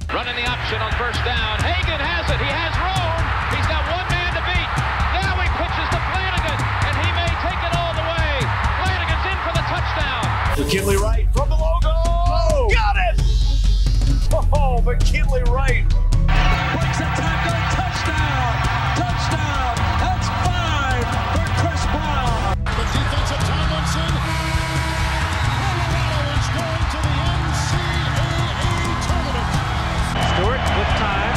Running the option on first down. Hagan has it. He has room. He's got one man to beat. Now he pitches to Flanagan, and he may take it all the way. Flanagan's in for the touchdown. McKinley Wright from the logo. Oh, got it! Oh, McKinley Wright. Breaks a tackle. Touchdown. Touchdown. That's 5 for Chris Brown. The defensive Tomlinson. Colorado is going to the NCAA tournament. Stewart with time.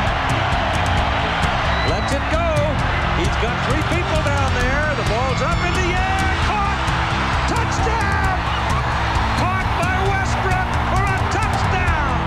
Lets it go. He's got 3 people down there. The ball's up in the air. Caught. Touchdown. Caught by Westbrook for a touchdown.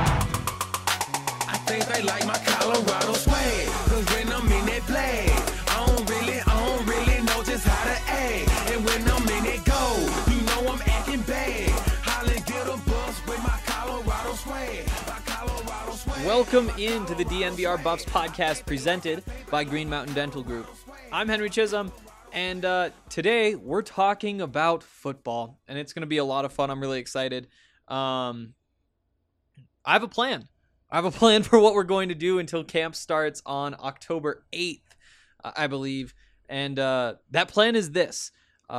I think they like my Colorado swag. Cause when I'm in that play, I don't really know just how to act. And when I'm in it go, you know I'm acting bad. Holland get a bus with my Colorado swag. My Colorado swag. Welcome into the DNVR Buffs podcast presented by Green Mountain Dental Group. I'm Henry Chisholm, and today we're talking about football, and it's going to be a lot of fun. I'm really excited. I have a plan. I have a plan for what we're going to do until camp starts on October 8th, I believe, and that plan is this.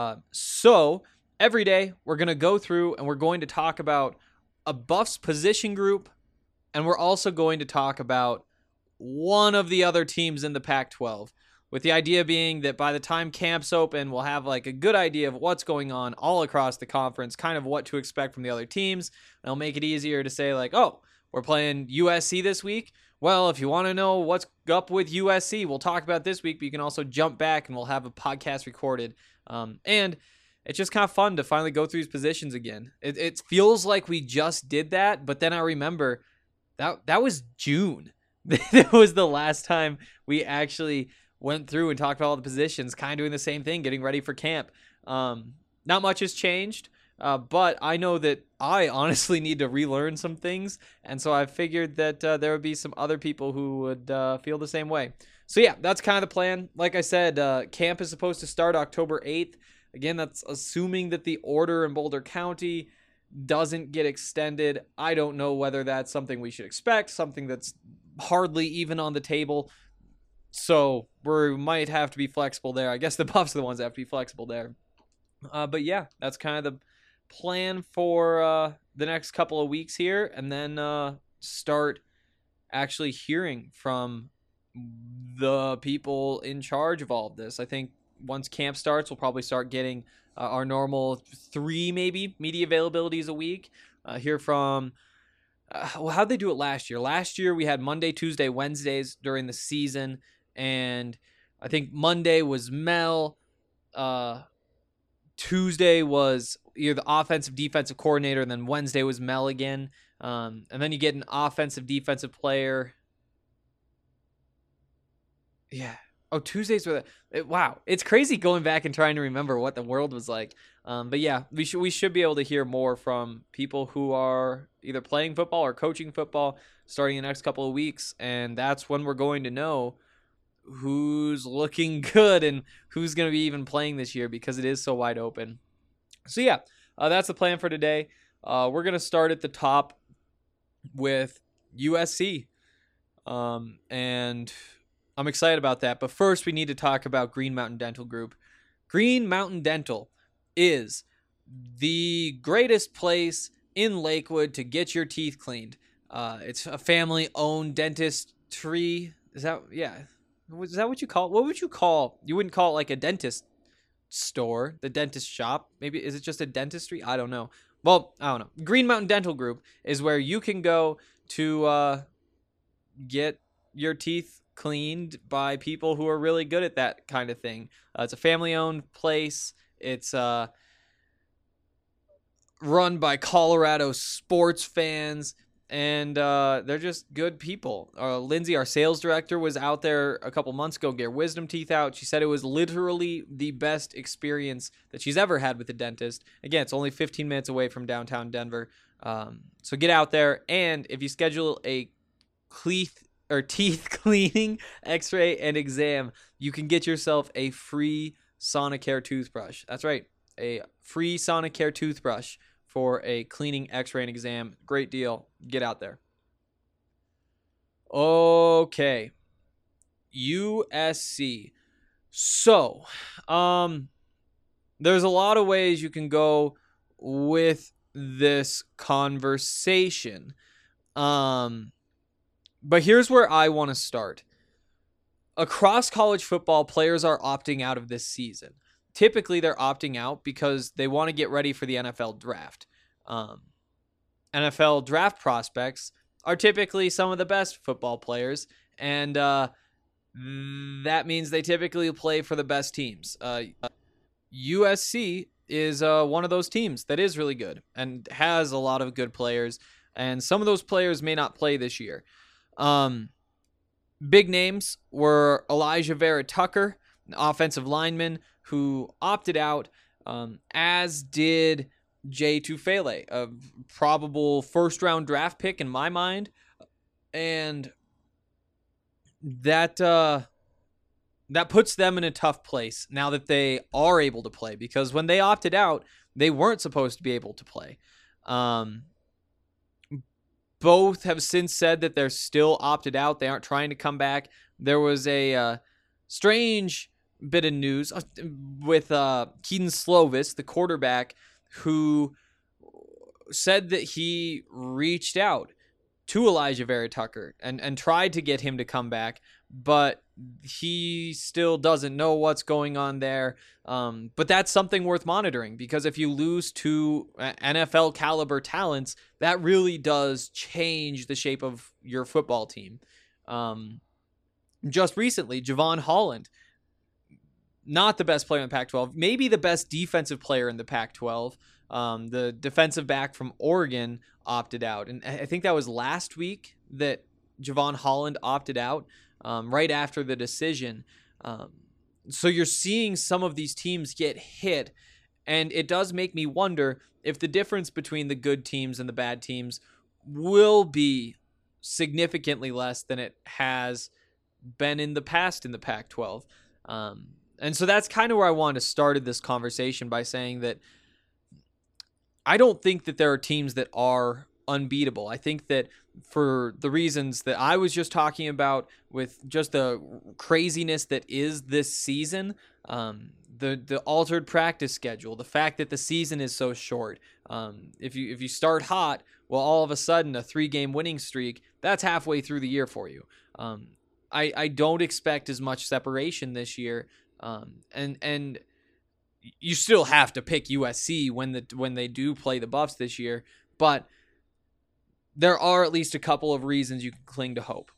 So every day we're going to go through and we're going to talk about a Buffs position group, and we're also going to talk about one of the other teams in the Pac-12, with the idea being that by the time camps open, we'll have like a good idea of what's going on all across the conference, kind of what to expect from the other teams. And it'll make it easier to say like, oh, we're playing USC this week. Well, if you want to know what's up with USC, we'll talk about this week, but you can also jump back and we'll have a podcast recorded. And it's just kind of fun to finally go through these positions again. It feels like we just did that, but then I remember that was June. That was the last time we actually went through and talked about all the positions, kind of doing the same thing, getting ready for camp. Not much has changed, but I know that I honestly need to relearn some things, and so I figured that there would be some other people who would feel the same way. So yeah, that's kind of the plan. Like I said, camp is supposed to start October 8th. Again, that's assuming that the order in Boulder County doesn't get extended. I don't know whether that's something we should expect, something that's hardly even on the table. So we might have to be flexible there. I guess the Buffs are the ones that have to be flexible there. But yeah, that's kind of the plan for the next couple of weeks here, and then start actually hearing from the people in charge of all of this. I think once camp starts, we'll probably start getting our normal 3 maybe media availabilities a week. Hear from how'd they do it last year? Last year we had Monday, Tuesday, Wednesdays during the season. And I think Monday was Mel. Tuesday was either the offensive defensive coordinator, and then Wednesday was Mel again. And then you get an offensive defensive player. Yeah. Oh, Tuesdays were wow. It's crazy going back and trying to remember what the world was like. But yeah, we should be able to hear more from people who are either playing football or coaching football starting in the next couple of weeks, and that's when we're going to know who's looking good and who's going to be even playing this year, because it is so wide open. So yeah, that's the plan for today. We're going to start at the top with USC. And I'm excited about that. But first we need to talk about Green Mountain Dental Group. Green Mountain Dental is the greatest place in Lakewood to get your teeth cleaned. It's a family-owned dentistry. Is that what you call it? What would you call? You wouldn't call it like a dentist store, the dentist shop. Maybe is it just a dentistry? I don't know. Well, I don't know. Green Mountain Dental Group is where you can go to get your teeth cleaned by people who are really good at that kind of thing. It's a family-owned place. It's run by Colorado sports fans. And they're just good people. Lindsay, our sales director, was out there a couple months ago, get her wisdom teeth out. She said it was literally the best experience that she's ever had with a dentist. Again, it's only 15 minutes away from downtown Denver. So get out there. And if you schedule a teeth cleaning, x-ray, and exam, you can get yourself a free Sonicare toothbrush. That's right, a free Sonicare toothbrush for a cleaning, x-ray, and exam. Great deal. Get out there. Okay. USC. So, there's a lot of ways you can go with this conversation. But here's where I want to start. Across college football, players are opting out of this season. Typically, they're opting out because they want to get ready for the NFL draft. NFL draft prospects are typically some of the best football players, and that means they typically play for the best teams. USC is one of those teams that is really good and has a lot of good players, and some of those players may not play this year. Big names were Elijah Vera Tucker, an offensive lineman who opted out, as did Jay Tufele, a probable first-round draft pick in my mind, and that puts them in a tough place now that they are able to play, because when they opted out, they weren't supposed to be able to play. Both have since said that they're still opted out. They aren't trying to come back. There was a strange bit of news with Keaton Slovis, the quarterback, who said that he reached out to Elijah Vera Tucker and tried to get him to come back, but he still doesn't know what's going on there. But that's something worth monitoring, because if you lose two NFL caliber talents, that really does change the shape of your football team. Just recently, Javon Holland, not the best player in the Pac-12, maybe the best defensive player in the Pac-12. The defensive back from Oregon opted out. And I think that was last week that Javon Holland opted out, right after the decision. So you're seeing some of these teams get hit, and it does make me wonder if the difference between the good teams and the bad teams will be significantly less than it has been in the past in the Pac-12. And so that's kind of where I wanted to start this conversation, by saying that I don't think that there are teams that are unbeatable. I think that for the reasons that I was just talking about, with just the craziness that is this season, the altered practice schedule, the fact that the season is so short. If you start hot, well, all of a sudden a 3-game winning streak, that's halfway through the year for you. I don't expect as much separation this year. And you still have to pick USC when they do play the Buffs this year, but there are at least a couple of reasons you can cling to hope.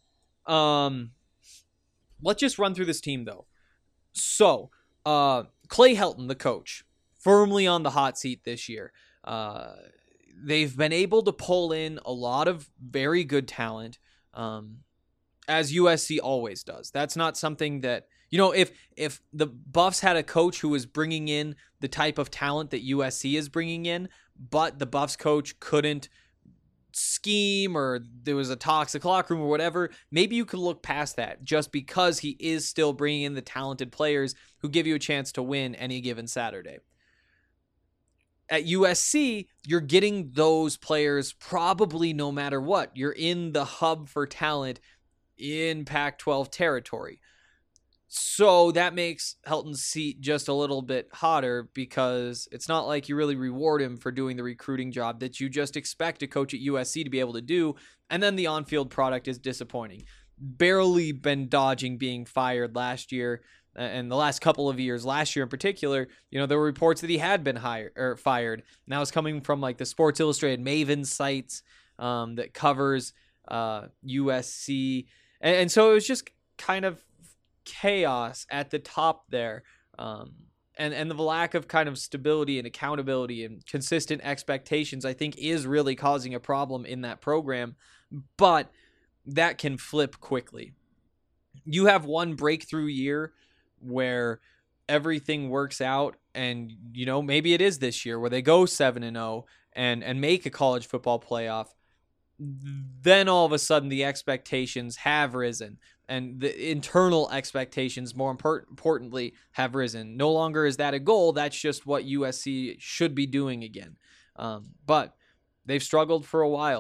Let's just run through this team, though. So, Clay Helton, the coach, firmly on the hot seat this year. They've been able to pull in a lot of very good talent, as USC always does. That's not something that, if the Buffs had a coach who was bringing in the type of talent that USC is bringing in, but the Buffs coach couldn't scheme, or there was a toxic locker room or whatever, maybe you could look past that, just because he is still bringing in the talented players who give you a chance to win any given Saturday. At USC, you're getting those players probably no matter what. You're in the hub for talent in Pac-12 territory. So that makes Helton's seat just a little bit hotter, because it's not like you really reward him for doing the recruiting job that you just expect a coach at USC to be able to do, and then the on-field product is disappointing. Barely been dodging being fired last year, and the last couple of years. Last year in particular, there were reports that he had been fired. And that was coming from like the Sports Illustrated Maven sites that covers USC, and so it was just kind of chaos at the top there, and the lack of kind of stability and accountability and consistent expectations, I think, is really causing a problem in that program. But that can flip quickly. You have one breakthrough year where everything works out, and maybe it is this year where they go 7-0 and make a college football playoff. Then all of a sudden the expectations have risen, and the internal expectations, more importantly, have risen. No longer is that a goal. That's just what USC should be doing again. But they've struggled for a while,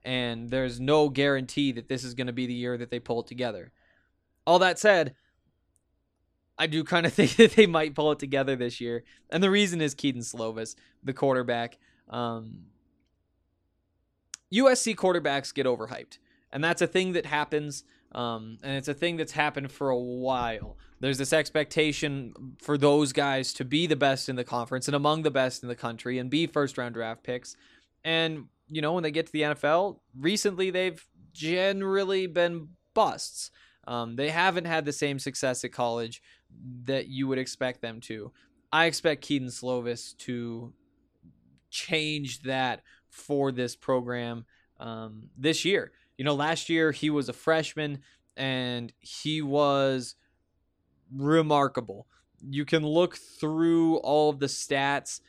and there's no guarantee that this is going to be the year that they pull it together. All that said, I do kind of think that they might pull it together this year, and the reason is Kedon Slovis, the quarterback. USC quarterbacks get overhyped, and that's a thing that happens, and it's a thing that's happened for a while. There's this expectation for those guys to be the best in the conference and among the best in the country and be first-round draft picks. And, you know, when they get to the NFL, recently they've generally been busts. They haven't had the same success at college that you would expect them to. I expect Kedon Slovis to change that for this program this year. You know, last year he was a freshman and he was remarkable. You can look through all of the stats,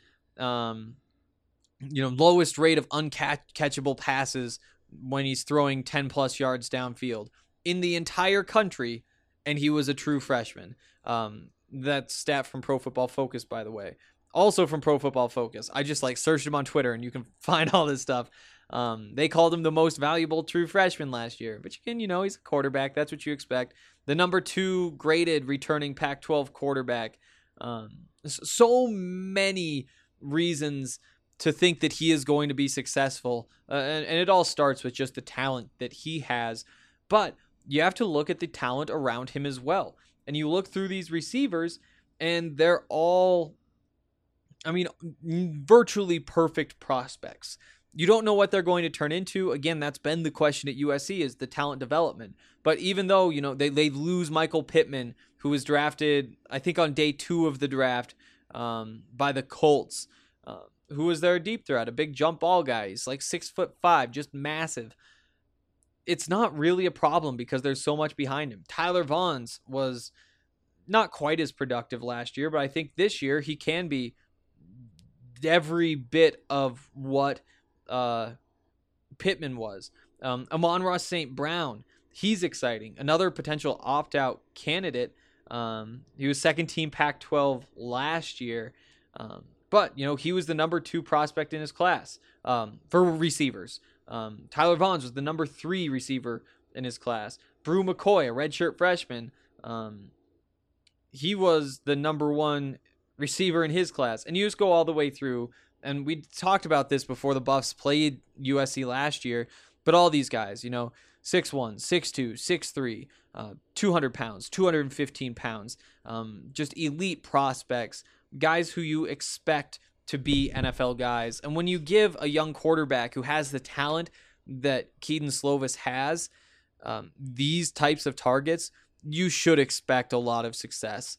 lowest rate of uncatchable passes when he's throwing 10 plus yards downfield in the entire country, and he was a true freshman. That stat from Pro Football Focus, by the way. Also from Pro Football Focus. I just searched him on Twitter and you can find all this stuff. They called him the most valuable true freshman last year, but he's a quarterback. That's what you expect. The number 2 graded returning Pac-12 quarterback. So many reasons to think that he is going to be successful. And it all starts with just the talent that he has. But you have to look at the talent around him as well. And you look through these receivers and they're all, virtually perfect prospects. You don't know what they're going to turn into. Again, that's been the question at USC, is the talent development. But even though, they lose Michael Pittman, who was drafted, I think on day 2 of the draft by the Colts, who was their deep threat, a big jump ball guy. He's 6'5", just massive. It's not really a problem because there's so much behind him. Tyler Vaughns was not quite as productive last year, but I think this year he can be every bit of what Pittman was. Amon-Ra St. Brown, he's exciting. Another potential opt-out candidate. He was second team Pac-12 last year. But, he was the number 2 prospect in his class for receivers. Tyler Vaughns was the number 3 receiver in his class. Brew McCoy, a redshirt freshman, he was the number 1 receiver in his class. And you just go all the way through, and we talked about this before the Buffs played USC last year, but all these guys, 6'1", 6'2", 6'3", 200 pounds, 215 pounds, just elite prospects, guys who you expect to be NFL guys. And when you give a young quarterback who has the talent that Kedon Slovis has, these types of targets, you should expect a lot of success.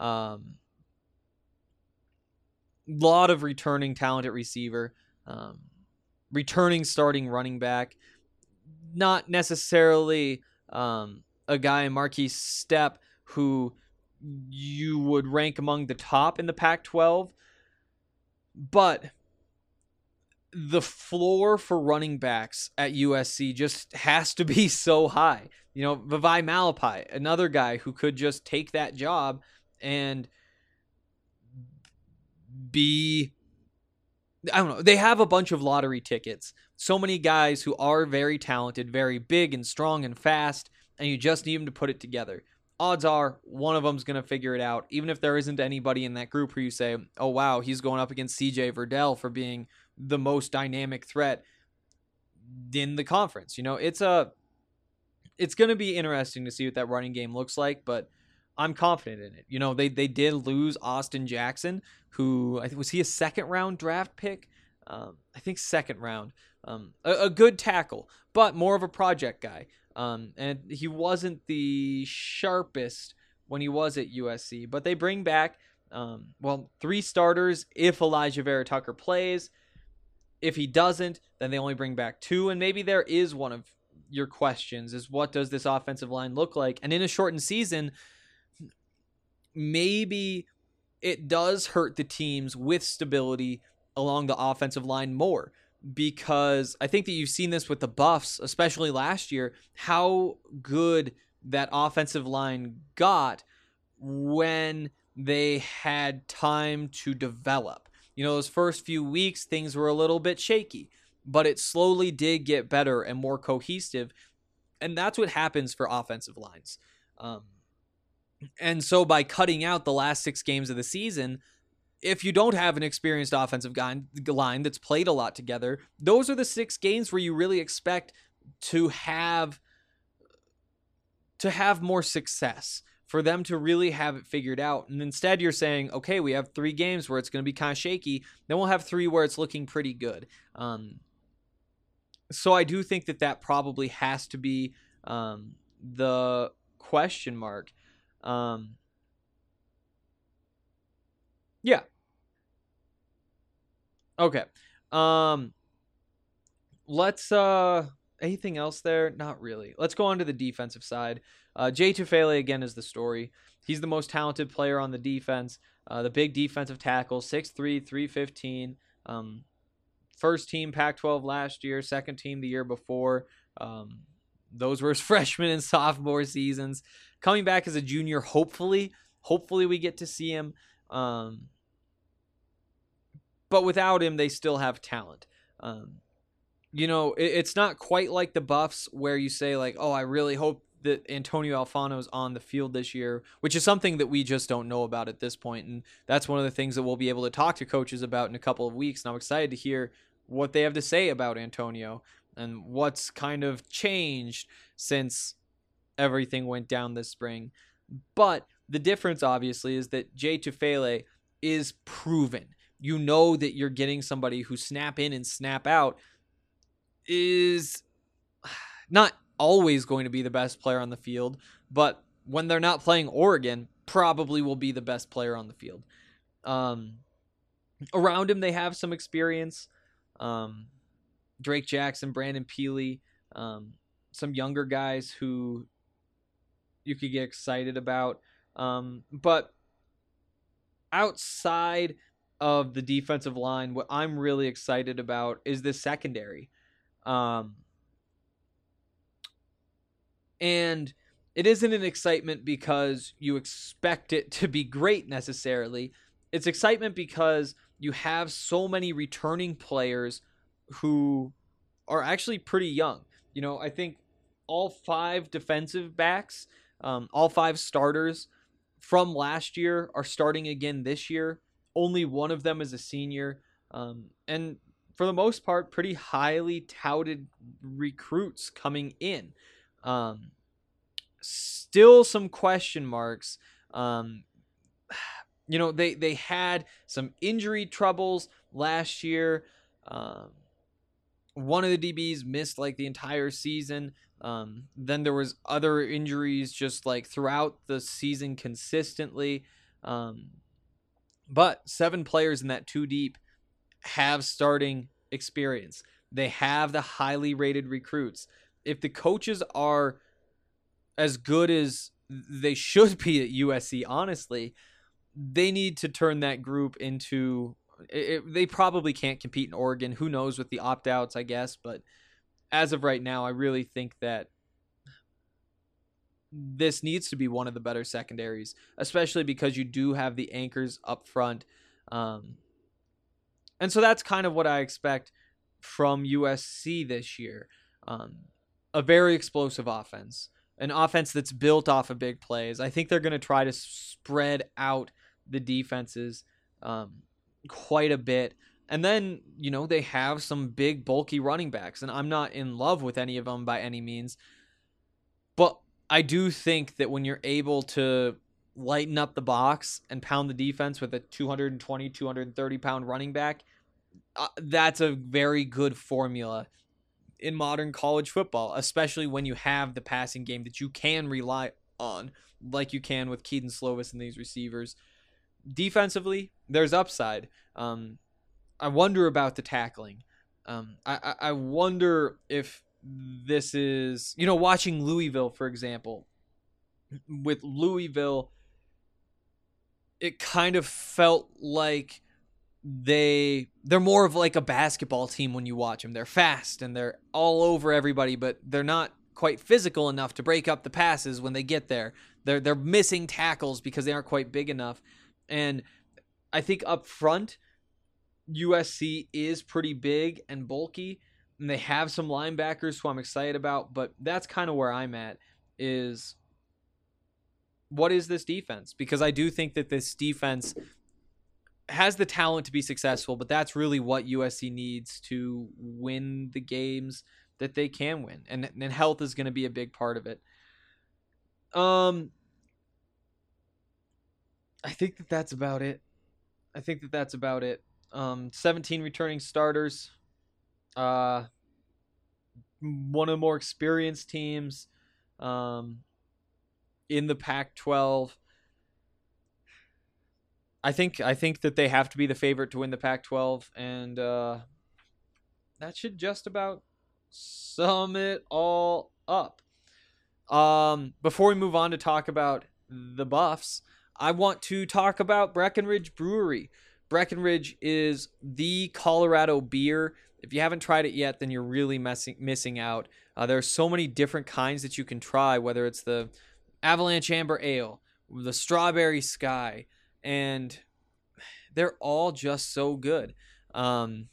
Lot of returning talent at receiver, returning starting running back, not necessarily a guy, Marquise Stepp, who you would rank among the top in the Pac-12, but the floor for running backs at USC just has to be so high. Vavai Malapai, another guy who could just take that job and be, they have a bunch of lottery tickets. So many guys who are very talented, very big and strong and fast, and you just need them to put it together. Odds are one of them's going to figure it out, even if there isn't anybody in that group who you say, oh, wow, he's going up against CJ Verdell for being the most dynamic threat in the conference. It's going to be interesting to see what that running game looks like, but I'm confident in it. They did lose Austin Jackson, who, was he a second-round draft pick? I think second round. A good tackle, but more of a project guy. And he wasn't the sharpest when he was at USC, but they bring back, 3 starters if Elijah Vera Tucker plays. If he doesn't, then they only bring back 2, and maybe there is one of your questions is, what does this offensive line look like? And in a shortened season, maybe it does hurt the teams with stability along the offensive line more, because I think that you've seen this with the Buffs, especially last year, how good that offensive line got when they had time to develop. Those first few weeks, things were a little bit shaky. but it slowly did get better and more cohesive. And that's what happens for offensive lines. And so by cutting out the last 6 games of the season, if you don't have an experienced offensive line that's played a lot together, those are the 6 games where you really expect to have more success, for them to really have it figured out. And instead you're saying, okay, we have 3 games where it's going to be kind of shaky. Then we'll have 3 where it's looking pretty good. So I do think that probably has to be the question mark. Yeah. Okay. Let's anything else there? Not really. Let's go on to the defensive side. Jay Tufele again is the story. He's the most talented player on the defense. The big defensive tackle, 6'3", 315. First team Pac-12 last year, second team the year before. Those were his freshman and sophomore seasons. Coming back as a junior, hopefully we get to see him. But without him, they still have talent. It's not quite like the Buffs where you say like, oh, I really hope that Antonio Alfano's on the field this year, which is something that we just don't know about at this point. And that's one of the things that we'll be able to talk to coaches about in a couple of weeks. And I'm excited to hear what they have to say about Antonio and what's kind of changed since everything went down this spring. But the difference, obviously, is that Jay Tufele is proven. You know that you're getting somebody who snap in and snap out is not always going to be the best player on the field, but when they're not playing Oregon, probably will be the best player on the field. Around him, they have some experience. Drake Jackson, Brandon Peely, some younger guys who you could get excited about. But outside of the defensive line, what I'm really excited about is the secondary. And it isn't an excitement because you expect it to be great necessarily. It's excitement because you have so many returning players who are actually pretty young. I think all 5 defensive backs, all 5 starters from last year are starting again this year. Only one of them is a senior. And for the most part, pretty highly touted recruits coming in. Still some question marks. They had some injury troubles last year. One of the DBs missed like the entire season. Then there was other injuries just like throughout the season consistently. But 7 players in that 2 deep have starting experience. They have the highly rated recruits. If the coaches are as good as they should be at USC, honestly, they need to turn that group into... they probably can't compete in Oregon. Who knows with the opt-outs, I guess. But as of right now, I really think that this needs to be one of the better secondaries, especially because you do have the anchors up front. And so that's kind of what I expect from USC this year. A very explosive offense, an offense that's built off of big plays. I think they're going to try to spread out the defenses quite a bit. And then, they have some big, bulky running backs, and I'm not in love with any of them by any means. But I do think that when you're able to lighten up the box and pound the defense with a 220, 230-pound running back, that's a very good formula in modern college football, especially when you have the passing game that you can rely on, like you can with Keaton Slovis and these receivers. Defensively, there's upside. I wonder about the tackling. I wonder if this is, watching Louisville, for example. With Louisville, it kind of felt like they're more of like a basketball team when you watch them. They're fast and they're all over everybody, but they're not quite physical enough to break up the passes when they get there. They're missing tackles because they aren't quite big enough. And I think up front, USC is pretty big and bulky. And they have some linebackers who I'm excited about, but that's kind of where I'm at, is what is this defense? Because I do think that this defense has the talent to be successful, but that's really what USC needs to win the games that they can win. And health is going to be a big part of it. I think that's about it. 17 returning starters. One of the more experienced teams in the Pac-12. I think that they have to be the favorite to win the Pac-12, and that should just about sum it all up. Before we move on to talk about the Buffs, I want to talk about Breckenridge Brewery. Breckenridge is the Colorado beer. If you haven't tried it yet, then you're really missing out. There are so many different kinds that you can try, whether it's the Avalanche Amber Ale, the Strawberry Sky, and they're all just so good. I'm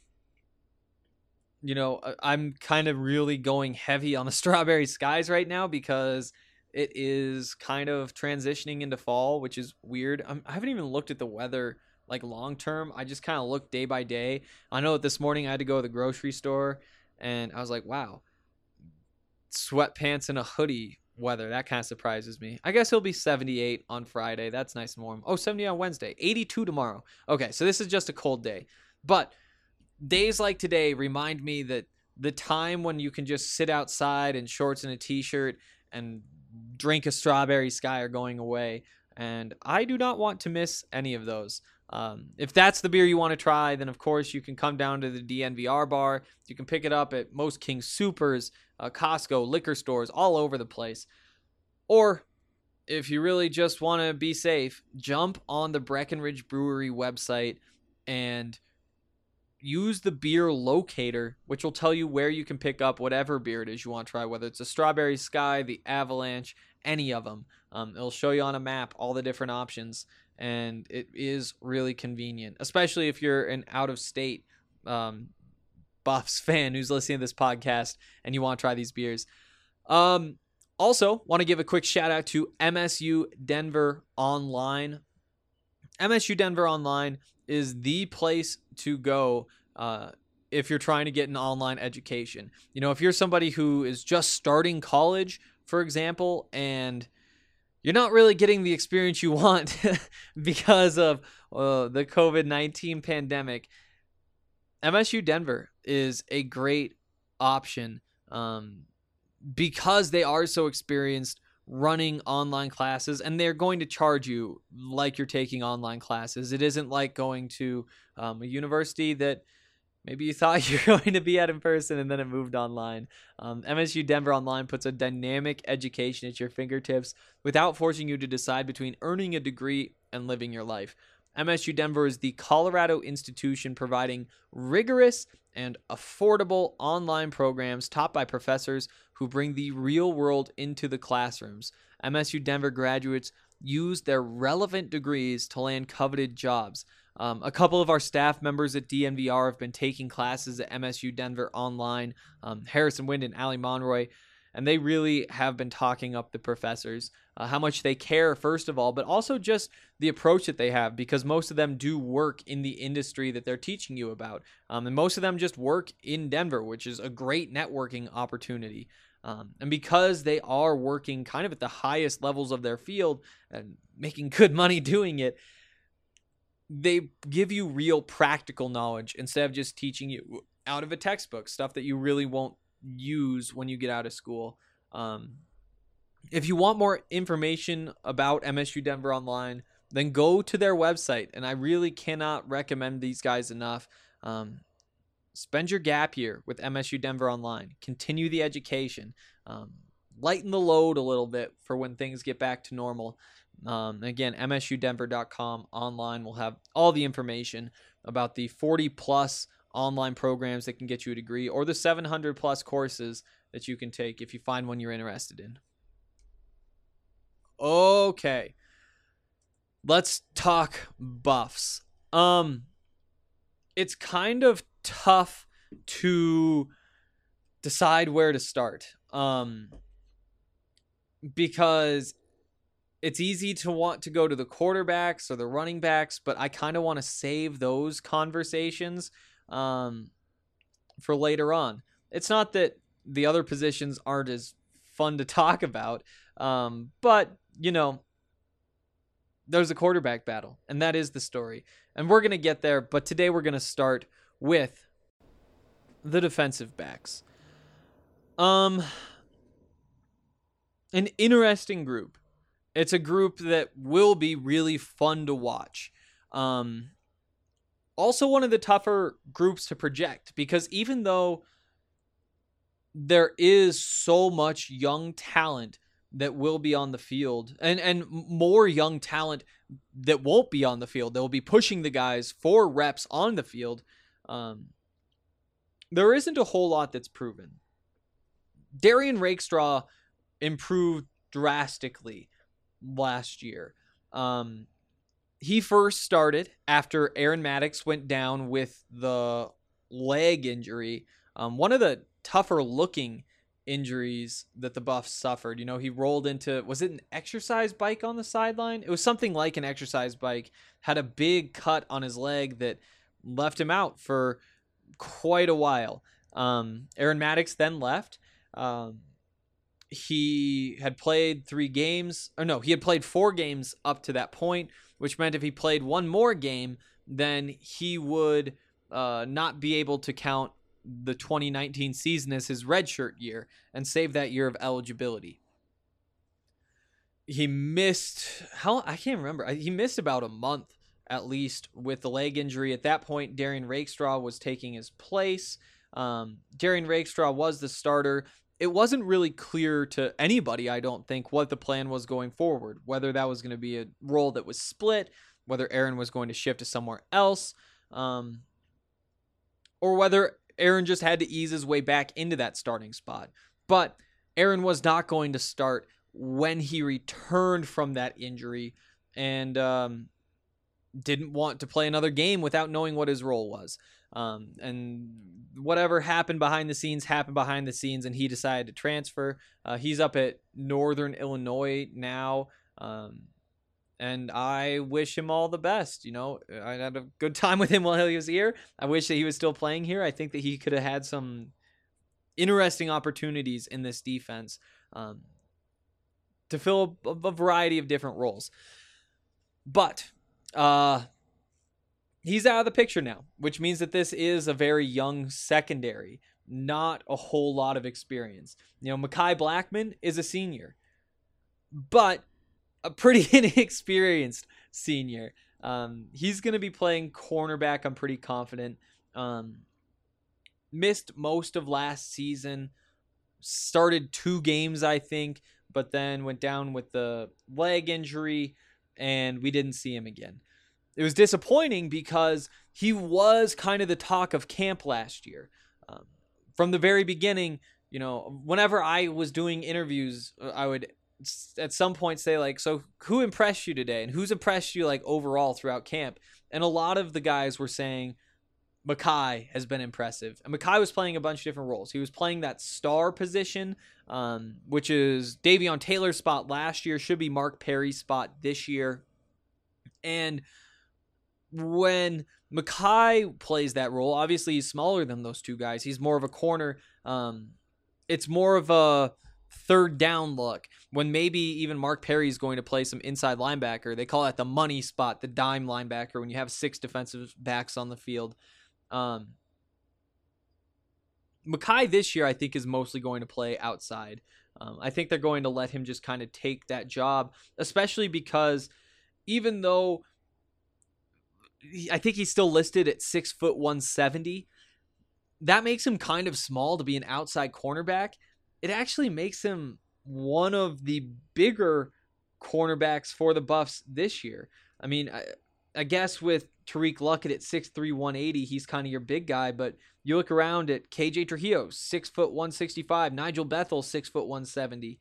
kind of really going heavy on the Strawberry Skies right now because it is kind of transitioning into fall, which is weird. I haven't even looked at the weather like long term. I just kind of look day by day. I know that this morning I had to go to the grocery store and I was like, wow, sweatpants and a hoodie weather. That kind of surprises me. I guess it'll be 78 on Friday. That's nice and warm. 70 on Wednesday. 82 tomorrow. Okay, so this is just a cold day. But days like today remind me that the time when you can just sit outside in shorts and a t-shirt and drink a Strawberry Sky are going away. And I do not want to miss any of those. If that's the beer you want to try, then of course you can come down to the DNVR bar. You can pick it up at most King Supers, Costco, liquor stores, all over the place. Or if you really just want to be safe, jump on the Breckenridge Brewery website and use the beer locator, which will tell you where you can pick up whatever beer it is you want to try, whether it's a Strawberry Sky, the Avalanche, any of them. It'll show you on a map all the different options, and it is really convenient, especially if you're an out-of-state Buffs fan who's listening to this podcast and you want to try these beers. Also, want to give a quick shout-out to MSU Denver Online. MSU Denver Online is the place to go if you're trying to get an online education. If you're somebody who is just starting college, for example, and you're not really getting the experience you want because of the COVID-19 pandemic, MSU Denver is a great option because they are so experienced running online classes, and they're going to charge you like you're taking online classes. It isn't like going to a university that maybe you thought you were going to be at in person and then it moved online. MSU Denver Online puts a dynamic education at your fingertips without forcing you to decide between earning a degree and living your life. MSU Denver is the Colorado institution providing rigorous and affordable online programs taught by professors who bring the real world into the classrooms. MSU Denver graduates use their relevant degrees to land coveted jobs. A couple of our staff members at DNVR have been taking classes at MSU Denver Online, Harrison Wind and Ali Monroy, and they really have been talking up the professors, how much they care, first of all, but also just the approach that they have, because most of them do work in the industry that they're teaching you about. And most of them just work in Denver, which is a great networking opportunity. And because they are working kind of at the highest levels of their field and making good money doing it, they give you real practical knowledge instead of just teaching you out of a textbook, stuff that you really won't use when you get out of school. If you want more information about MSU Denver Online, then go to their website. And I really cannot recommend these guys enough. Spend your gap year with MSU Denver Online. Continue the education. Lighten the load a little bit for when things get back to normal. Again, msudenver.com online will have all the information about the 40-plus online programs that can get you a degree, or the 700-plus courses that you can take if you find one you're interested in. Okay, let's talk Buffs. It's kind of tough to decide where to start. Because it's easy to want to go to the quarterbacks or the running backs, but I kind of want to save those conversations for later on. It's not that the other positions aren't as fun to talk about, but, you know, there's a quarterback battle, and that is the story. And we're going to get there, but today we're going to start with the defensive backs. An interesting group. It's a group that will be really fun to watch. Also one of the tougher groups to project, because even though there is so much young talent that will be on the field, and more young talent that won't be on the field, they'll be pushing the guys for reps on the field, there isn't a whole lot that's proven. Darian Rakestraw improved drastically last year. He first started after Aaron Maddox went down with the leg injury. One of the tougher looking injuries that the Buffs suffered. You know, he rolled into, was it an exercise bike on the sideline? It was something like an exercise bike, had a big cut on his leg that left him out for quite a while. Aaron Maddox then left. He had played 4 games up to that point, which meant if he played one more game, then he would not be able to count the 2019 season as his redshirt year and save that year of eligibility. He missed, I can't remember. He missed about a month at least with the leg injury. At that point, Darian Rakestraw was taking his place. Darian Rakestraw was the starter. It wasn't really clear to anybody, I don't think, what the plan was going forward, whether that was going to be a role that was split, whether Aaron was going to shift to somewhere else, or whether Aaron just had to ease his way back into that starting spot. But Aaron was not going to start when he returned from that injury, and didn't want to play another game without knowing what his role was. And whatever happened behind the scenes, and he decided to transfer. He's up at Northern Illinois now, and I wish him all the best. You know, I had a good time with him while he was here. I wish that he was still playing here. I think that he could have had some interesting opportunities in this defense to fill a variety of different roles. But he's out of the picture now, which means that this is a very young secondary, not a whole lot of experience. You know, Mekhi Blackmon is a senior, but a pretty inexperienced senior. He's going to be playing cornerback, I'm pretty confident. Missed most of last season, started 2 games, I think, but then went down with the leg injury, and we didn't see him again. It was disappointing because he was kind of the talk of camp last year. From the very beginning, you know, whenever I was doing interviews, I would at some point say, like, so who impressed you today? And who's impressed you, like, overall throughout camp? And a lot of the guys were saying Mekhi has been impressive. And Mekhi was playing a bunch of different roles. He was playing that star position, which is Davion Taylor's spot last year, should be Mark Perry's spot this year. And when Mekhi plays that role, obviously he's smaller than those two guys. He's more of a corner. It's more of a third down look when maybe even Mark Perry is going to play some inside linebacker. They call that the money spot, the dime linebacker, when you have 6 defensive backs on the field. Mekhi this year, I think, is mostly going to play outside. I think they're going to let him just kind of take that job, especially because even though I think he's still listed at 6 foot 170, that makes him kind of small to be an outside cornerback. It actually makes him one of the bigger cornerbacks for the Buffs this year. I mean, I guess with Tariq Luckett at 6'3", 180, he's kind of your big guy, but you look around at KJ Trujillo, 6 foot 165, Nigel Bethel, 6 foot 170,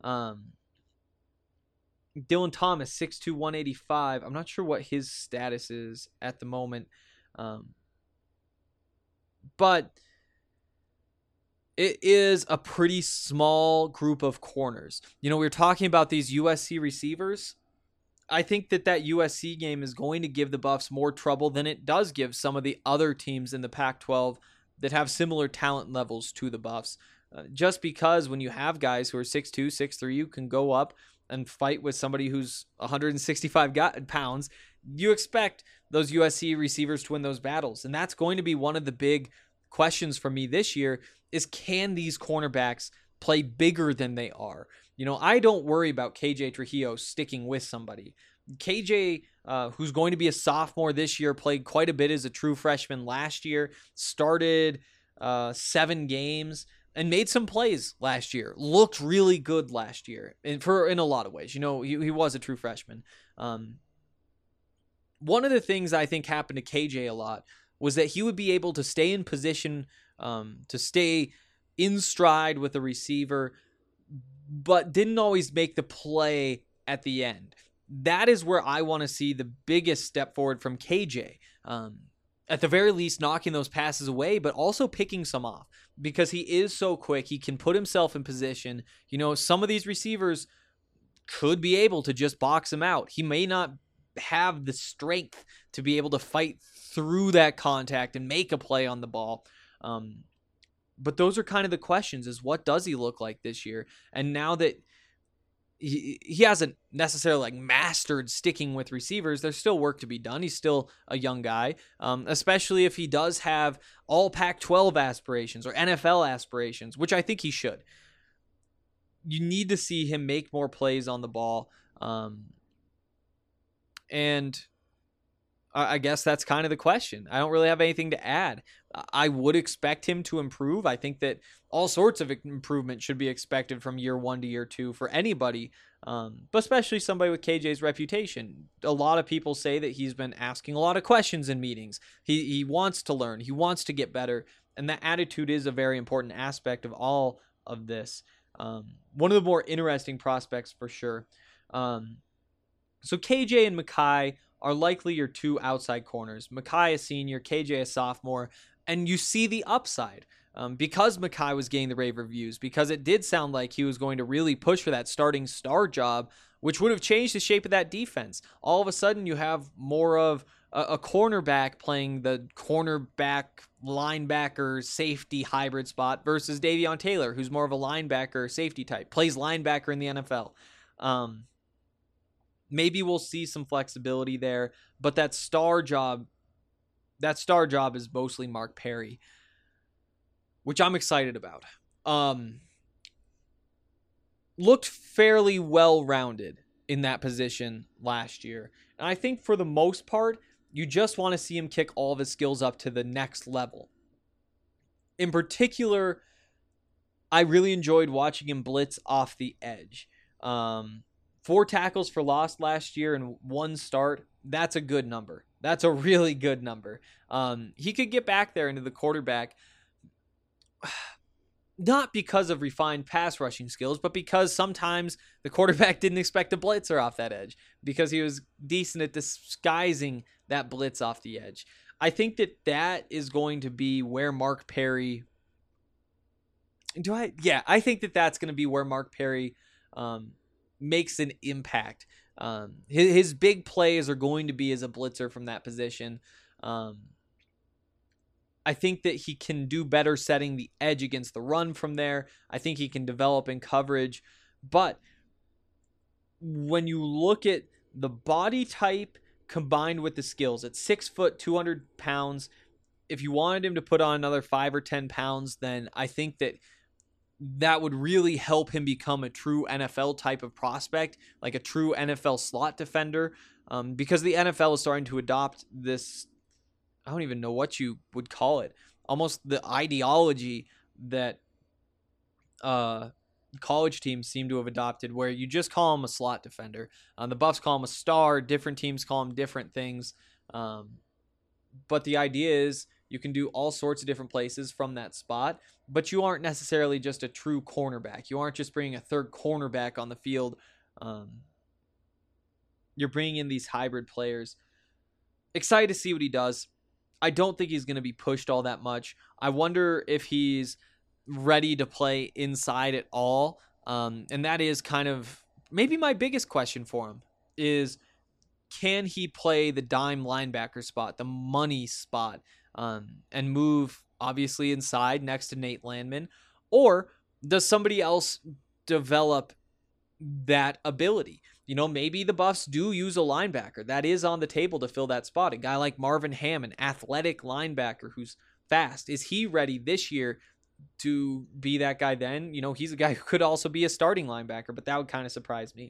Dylan Thomas, 6'2", 185. I'm not sure what his status is at the moment. But it is a pretty small group of corners. We were talking about these USC receivers. I think that USC game is going to give the Buffs more trouble than it does give some of the other teams in the Pac-12 that have similar talent levels to the Buffs. Just because when you have guys who are 6'2", 6'3", you can go up and fight with somebody who's 165 pounds, you expect those USC receivers to win those battles. And that's going to be one of the big questions for me this year is, can these cornerbacks play bigger than they are? I don't worry about KJ Trujillo sticking with somebody. KJ, who's going to be a sophomore this year, played quite a bit as a true freshman last year, started 7 games, and made some plays last year. Looked really good last year in a lot of ways. he was a true freshman. One of the things I think happened to KJ a lot was that he would be able to stay in position, to stay in stride with the receiver, but didn't always make the play at the end. That is where I want to see the biggest step forward from KJ. At the very least, knocking those passes away, but also picking some off, because he is so quick. He can put himself in position. Some of these receivers could be able to just box him out. He may not have the strength to be able to fight through that contact and make a play on the ball. But those are kind of the questions, is what does he look like this year? And now that he hasn't necessarily mastered sticking with receivers, there's still work to be done. He's still a young guy, especially if he does have all Pac-12 aspirations or NFL aspirations, which I think he should. You need to see him make more plays on the ball. And I guess that's kind of the question. I don't really have anything to add. I would expect him to improve. I think that all sorts of improvement should be expected from year 1 to year 2 for anybody, but especially somebody with KJ's reputation. A lot of people say that he's been asking a lot of questions in meetings. He wants to learn. He wants to get better. And that attitude is a very important aspect of all of this. One of the more interesting prospects for sure. So KJ and Mekhi are likely your 2 outside corners. Mekhi a senior, KJ a sophomore, and you see the upside. Because Mekhi was getting the rave reviews, because it did sound like he was going to really push for that starting star job, which would have changed the shape of that defense. All of a sudden, you have more of a cornerback playing the cornerback, linebacker, safety hybrid spot versus Davion Taylor, who's more of a linebacker, safety type, plays linebacker in the NFL. Maybe we'll see some flexibility there, but that star job is mostly Mark Perry, which I'm excited about. Looked fairly well-rounded in that position last year. And I think for the most part, you just want to see him kick all of his skills up to the next level. In particular, I really enjoyed watching him blitz off the edge. 4 tackles for loss last year and 1 start. That's a good number. That's a really good number. He could get back there into the quarterback, not because of refined pass rushing skills, but because sometimes the quarterback didn't expect a blitzer off that edge, because he was decent at disguising that blitz off the edge. I think that is going to be where Mark Perry... I think that's going to be where Mark Perry makes an impact. His big plays are going to be as a blitzer from that position. I think that he can do better setting the edge against the run from there. I think he can develop in coverage. But when you look at the body type combined with the skills, at 6 foot, 200 pounds, if you wanted him to put on another 5 or 10 pounds, then I think that would really help him become a true NFL type of prospect, like a true NFL slot defender, because the NFL is starting to adopt this, I don't even know what you would call it, almost the ideology that college teams seem to have adopted, where you just call him a slot defender. The Buffs call him a star, different teams call him different things, but the idea is you can do all sorts of different places from that spot, but you aren't necessarily just a true cornerback. You aren't just bringing a third cornerback on the field. You're bringing in these hybrid players. Excited to see what he does. I don't think he's going to be pushed all that much. I wonder if he's ready to play inside at all. And that is kind of maybe my biggest question for him is, can he play the dime linebacker spot, the money spot, and move obviously inside next to Nate Landman? Or does somebody else develop that ability? Maybe the Buffs do use a linebacker. That is on the table to fill that spot. A guy like Marvin Ham, an athletic linebacker who's fast. Is he ready this year to be that guy then? He's a guy who could also be a starting linebacker, but that would kind of surprise me.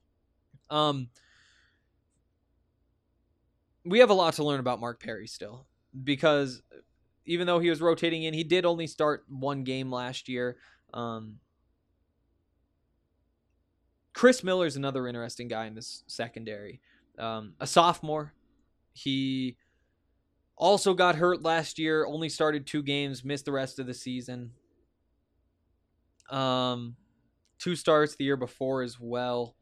We have a lot to learn about Mark Perry still, because even though he was rotating in, he did only start one game last year. Chris Miller is another interesting guy in this secondary. A sophomore. He also got hurt last year, only started 2 games, missed the rest of the season. 2 starts the year before as well.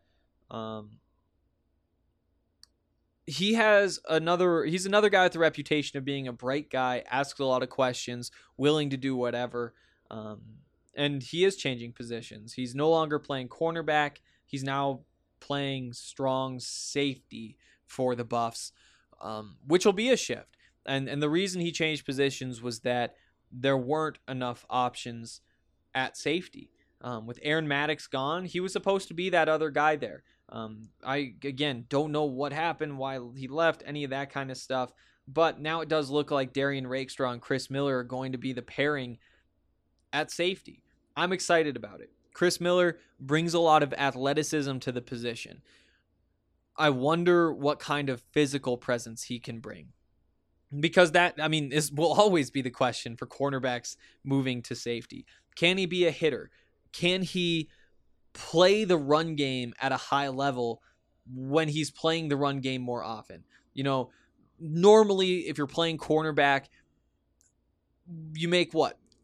He's another guy with the reputation of being a bright guy, asks a lot of questions, willing to do whatever. And he is changing positions. He's no longer playing cornerback. He's now playing strong safety for the Buffs, which will be a shift. And the reason he changed positions was that there weren't enough options at safety. With Aaron Maddox gone, he was supposed to be that other guy there. I, again, don't know what happened, why he left, any of that kind of stuff. But now it does look like Darian Rakestraw and Chris Miller are going to be the pairing at safety. I'm excited about it. Chris Miller brings a lot of athleticism to the position. I wonder what kind of physical presence he can bring. Because that, will always be the question for cornerbacks moving to safety. Can he be a hitter? Can he play the run game at a high level when he's playing the run game more often? Normally if you're playing cornerback, you make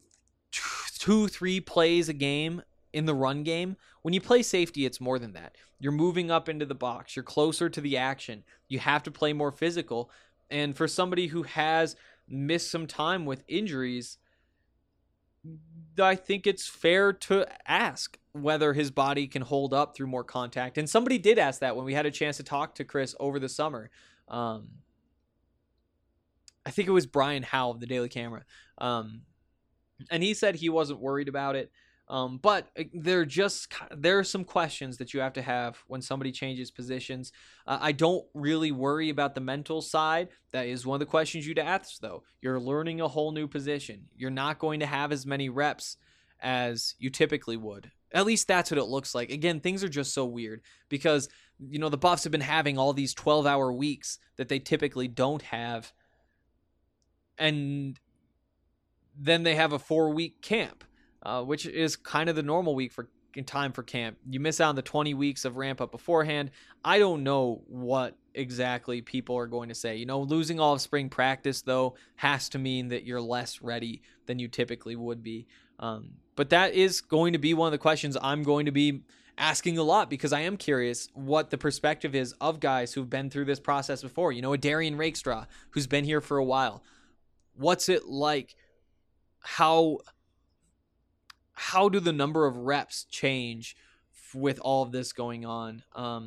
2-3 plays a game in the run game. When you play safety, it's more than that. You're moving up into the box. You're closer to the action. You have to play more physical. And for somebody who has missed some time with injuries, I think it's fair to ask whether his body can hold up through more contact. And somebody did ask that when we had a chance to talk to Chris over the summer. I think it was Brian Howe of the Daily Camera. And he said he wasn't worried about it. But there are some questions that you have to have when somebody changes positions. I don't really worry about the mental side. That is one of the questions you'd ask, though. You're learning a whole new position. You're not going to have as many reps as you typically would. At least that's what it looks like. Again, things are just so weird because, the Buffs have been having all these 12-hour weeks that they typically don't have. And then they have a 4-week camp. Which is kind of the normal week in time for camp. You miss out on the 20 weeks of ramp up beforehand. I don't know what exactly people are going to say. Losing all of spring practice, though, has to mean that you're less ready than you typically would be. But that is going to be one of the questions I'm going to be asking a lot because I am curious what the perspective is of guys who've been through this process before. A Darian Rakestraw, who's been here for a while. What's it like? How do the number of reps change with all of this going on?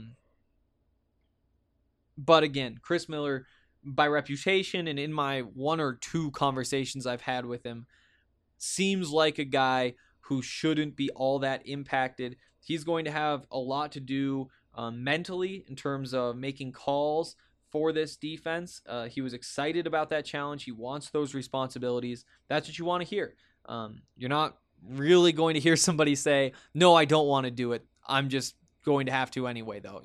But again, Chris Miller, by reputation and in my 1 or 2 conversations I've had with him, seems like a guy who shouldn't be all that impacted. He's going to have a lot to do mentally in terms of making calls for this defense. He was excited about that challenge. He wants those responsibilities. That's what you want to hear. You're not really going to hear somebody say, no, I don't want to do it. I'm just going to have to anyway, though.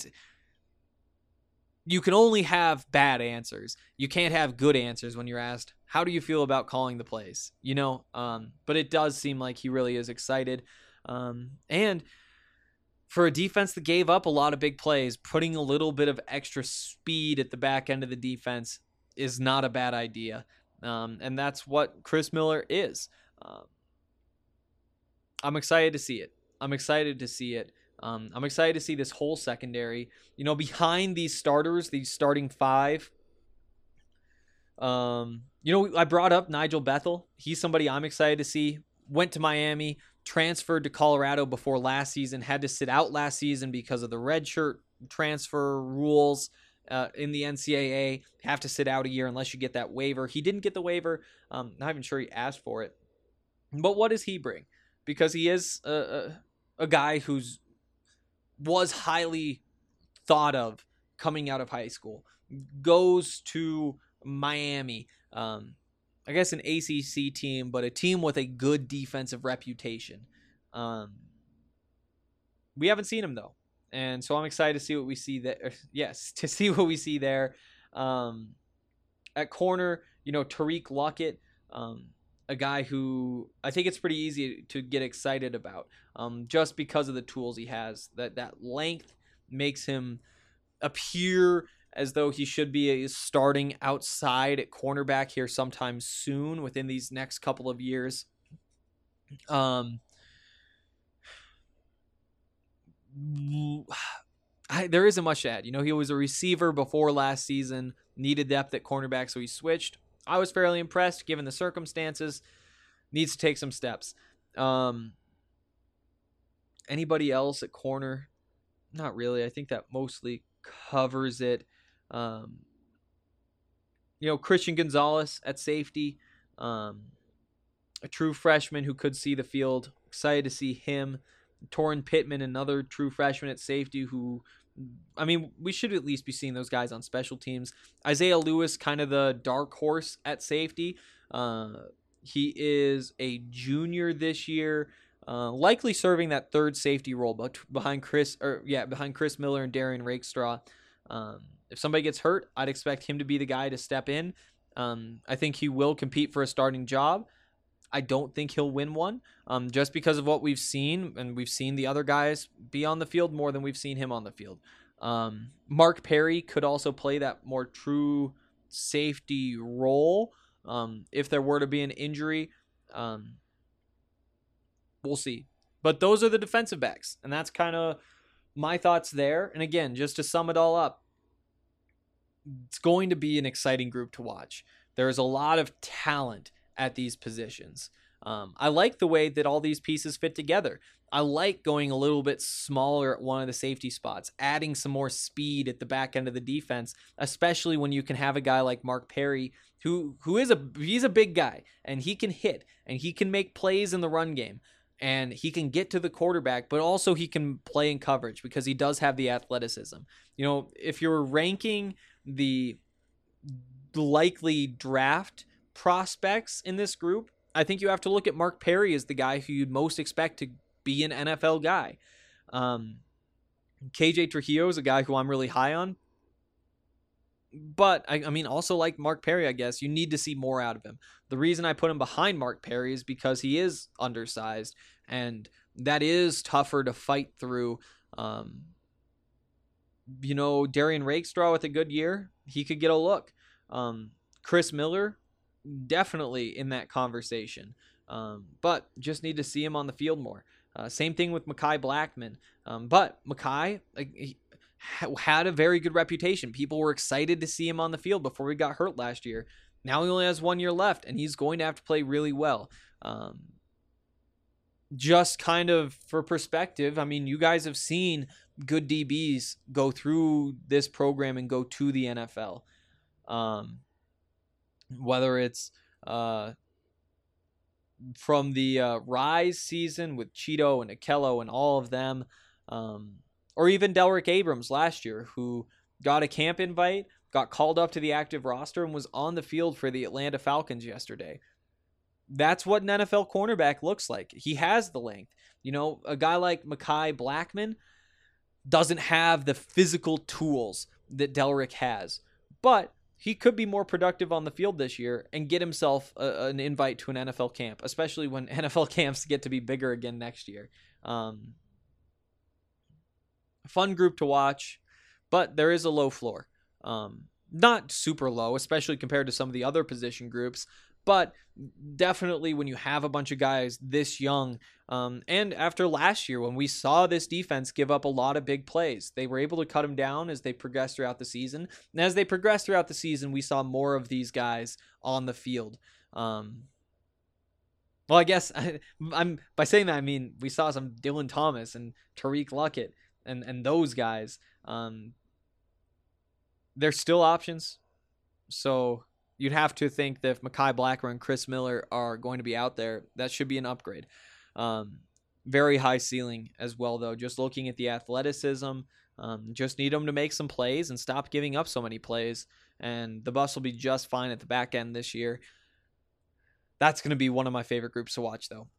You can only have bad answers. You can't have good answers when you're asked, how do you feel about calling the plays? But it does seem like he really is excited. And for a defense that gave up a lot of big plays, putting a little bit of extra speed at the back end of the defense is not a bad idea. And that's what Chris Miller is. I'm excited to see it. I'm excited to see this whole secondary. Behind these starters, these starting 5. I brought up Nigel Bethel. He's somebody I'm excited to see went to Miami, transferred to Colorado before last season, had to sit out last season because of the redshirt transfer rules in the NCAA. Have to sit out a year unless you get that waiver. He didn't get the waiver. Not even sure he asked for it. But what does he bring? Because he is a guy who's was highly thought of coming out of high school. Goes to Miami. I guess an ACC team, but a team with a good defensive reputation. We haven't seen him though, and so I'm excited to see what we see there. Yes, to see what we see there. At corner, Tariq Luckett, a guy who I think it's pretty easy to get excited about, just because of the tools he has. That length makes him appear as though he should be starting outside at cornerback here sometime soon within these next couple of years. There isn't much to add. He was a receiver before last season, needed depth at cornerback, so he switched. I was fairly impressed given the circumstances. Needs to take some steps. Anybody else at corner? Not really. I think that mostly covers it. Christian Gonzalez at safety, a true freshman who could see the field. Excited to see him. Torrin Pittman, another true freshman at safety who, we should at least be seeing those guys on special teams. Isaiah Lewis, kind of the dark horse at safety. He is a junior this year, likely serving that third safety role behind Chris Miller and Darian Rakestraw. If somebody gets hurt, I'd expect him to be the guy to step in. I think he will compete for a starting job. I don't think he'll win one, just because of what we've seen, and we've seen the other guys be on the field more than we've seen him on the field. Mark Perry could also play that more true safety role. If there were to be an injury, we'll see. But those are the defensive backs, and that's kind of my thoughts there. And again, just to sum it all up, it's going to be an exciting group to watch. There's a lot of talent at these positions. I like the way that all these pieces fit together. I like going a little bit smaller at one of the safety spots, adding some more speed at the back end of the defense, especially when you can have a guy like Mark Perry, he's a big guy, and he can hit, and he can make plays in the run game, and he can get to the quarterback, but also he can play in coverage because he does have the athleticism. If you're ranking the likely draft prospects in this group, I think you have to look at Mark Perry as the guy who you'd most expect to be an NFL guy. KJ Trujillo is a guy who I'm really high on, but also like Mark Perry, I guess you need to see more out of him. The reason I put him behind Mark Perry is because he is undersized, and that is tougher to fight through. Darian Rakestraw with a good year, he could get a look. Chris Miller, definitely in that conversation, but just need to see him on the field more. Same thing with Mekhi Blackman, but Mekhi had a very good reputation. People were excited to see him on the field before he got hurt last year. Now he only has 1 year left, and he's going to have to play really well. Just kind of for perspective, you guys have seen good DBs go through this program and go to the NFL. Whether it's from the Rise season with Cheeto and Akello and all of them, or even Delrick Abrams last year, who got a camp invite, got called up to the active roster, and was on the field for the Atlanta Falcons yesterday. That's what an NFL cornerback looks like. He has the length. A guy like Mekhi Blackman doesn't have the physical tools that Delrick has, but he could be more productive on the field this year and get himself an invite to an NFL camp, especially when NFL camps get to be bigger again next year. Fun group to watch, but there is a low floor. Not super low, especially compared to some of the other position groups, but definitely when you have a bunch of guys this young, and after last year when we saw this defense give up a lot of big plays, they were able to cut them down as they progressed throughout the season. And as they progressed throughout the season, we saw more of these guys on the field. Well, I guess I'm by saying that, I mean we saw some Dylan Thomas and Tariq Luckett and those guys. They're still options. So you'd have to think that if Mekhi Blackmon and Chris Miller are going to be out there, that should be an upgrade. Very high ceiling as well, though. Just looking at the athleticism, just need them to make some plays and stop giving up so many plays. And the Buffs will be just fine at the back end this year. That's going to be one of my favorite groups to watch, though.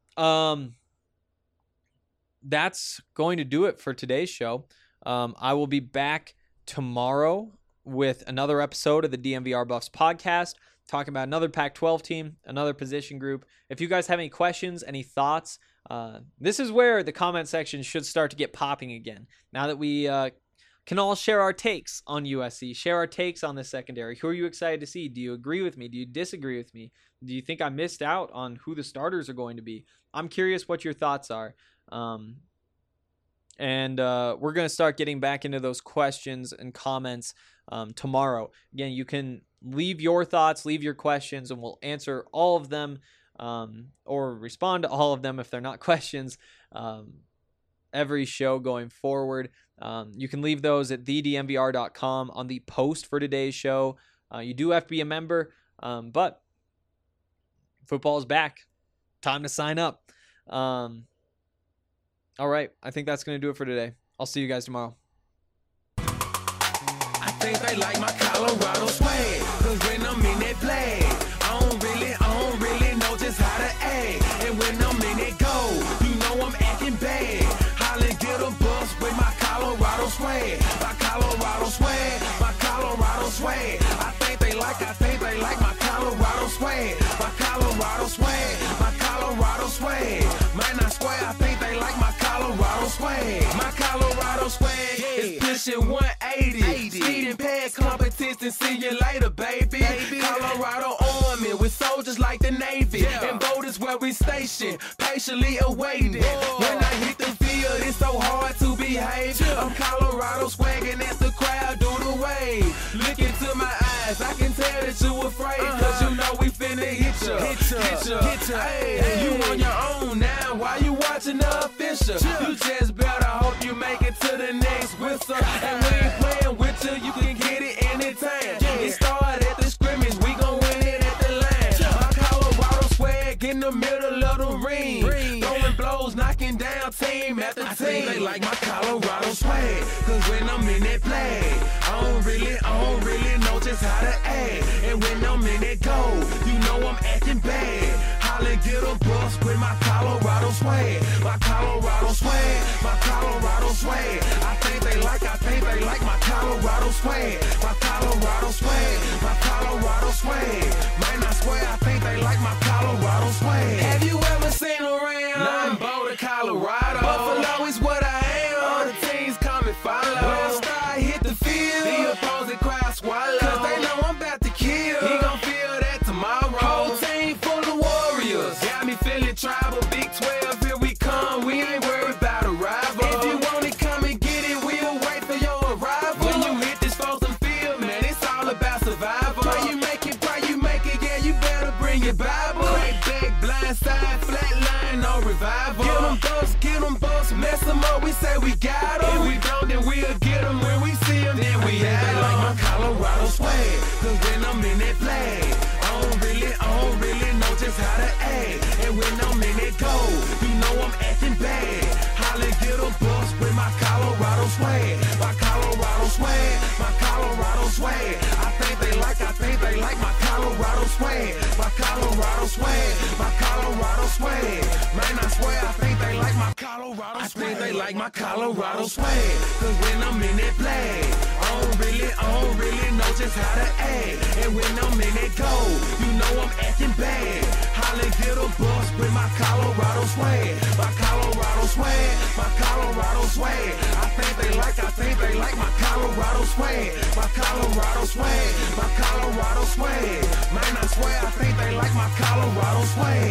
That's going to do it for today's show. I will be back tomorrow with another episode of the DNVR Buffs podcast, talking about another Pac-12 team, another position group. If you guys have any questions, any thoughts, this is where the comment section should start to get popping again. Now that we can all share our takes on USC, share our takes on the secondary. Who are you excited to see? Do you agree with me? Do you disagree with me? Do you think I missed out on who the starters are going to be? I'm curious what your thoughts are. And we're going to start getting back into those questions and comments tomorrow. Again, you can leave your thoughts, leave your questions, and we'll answer all of them or respond to all of them if they're not questions every show going forward. You can leave those at thednvr.com on the post for today's show. You do have to be a member, but football is back. Time to sign up. All right, I think that's going to do it for today. I'll see you guys tomorrow. I think they like my Colorado swag, 'cause when I'm in that play, I don't really know just how to act. And when I'm in that go, you know I'm acting bad. Holla, get a bus with my Colorado swag. My Colorado swag, my Colorado swag. I think they like my Colorado swag. My Colorado swag, my Colorado swag. Man, I swear, I think they like my Colorado swag. My Colorado swag is pushing 180. Speeding past competition, see you later, baby. Colorado Army with soldiers like the Navy. And boat is where we station, patiently awaiting. When I hit the field, it's so hard to behave. I'm Colorado swagging as the crowd do the wave. Look into my eyes, I can tell that you afraid. 'Cause you know we finna hit ya. Hey, you on your own now, why you watching the official? You just better hope you make it to the next whistle. And we ain't playing with you, you can get it anytime. It started at the scrimmage, we gon' win it at the line. My Colorado swag in the middle of the ring. Throwing blows, knocking down team after team. I think they like my Colorado swag, 'cause when I'm in that play, I don't really know just how to act. And when I'm in that go, you know I'm acting bad. Holla, get a bus with my Colorado swag. My Colorado swag, my Colorado swag. I think they like my Colorado swag. My Colorado swag, my Colorado swag. Man, I swear, I think they like my Colorado swag. Have you ever seen around? Nothing but Colorado. Buffalo is what I am. All the teams come and follow. When I start hit the field, the opposing crowd swallow. 'Cause they know I'm about to kill. He gon' feel that tomorrow. Whole team full of warriors. Got me feeling tribal. Big 12, here we come. We ain't worried about a rival. If you want it, come and get it. We'll wait for your arrival. When you hit this frozen field, man, it's all about survival. Pray you make it, yeah, you better bring your Bible. Crack back, blind side, flat line, no revival. Get them bucks, mess them up, we say we got them. If we don't, then we'll get them. When we see them, then we have them. Like my Colorado swag, 'cause when I'm in that play, I don't really know just how to act. And when I'm in that go, you know I'm acting bad. Holla, get a bus with my Colorado swag. My Colorado swag, my Colorado swag. I think they like my Colorado swag. My Colorado swag, my Colorado swag. Man, I swear, I think they like my Colorado swag. I think they like my Colorado swag. 'Cause when I'm in that play, I don't really know just how to act. And when I'm in that go, you know I'm acting bad. Holla, get a bus with my Colorado swag. My Colorado swag, my Colorado swag. I think they like my Colorado swag. My Colorado swag, my Colorado swag. Man, I swear, I think they like my Colorado swag.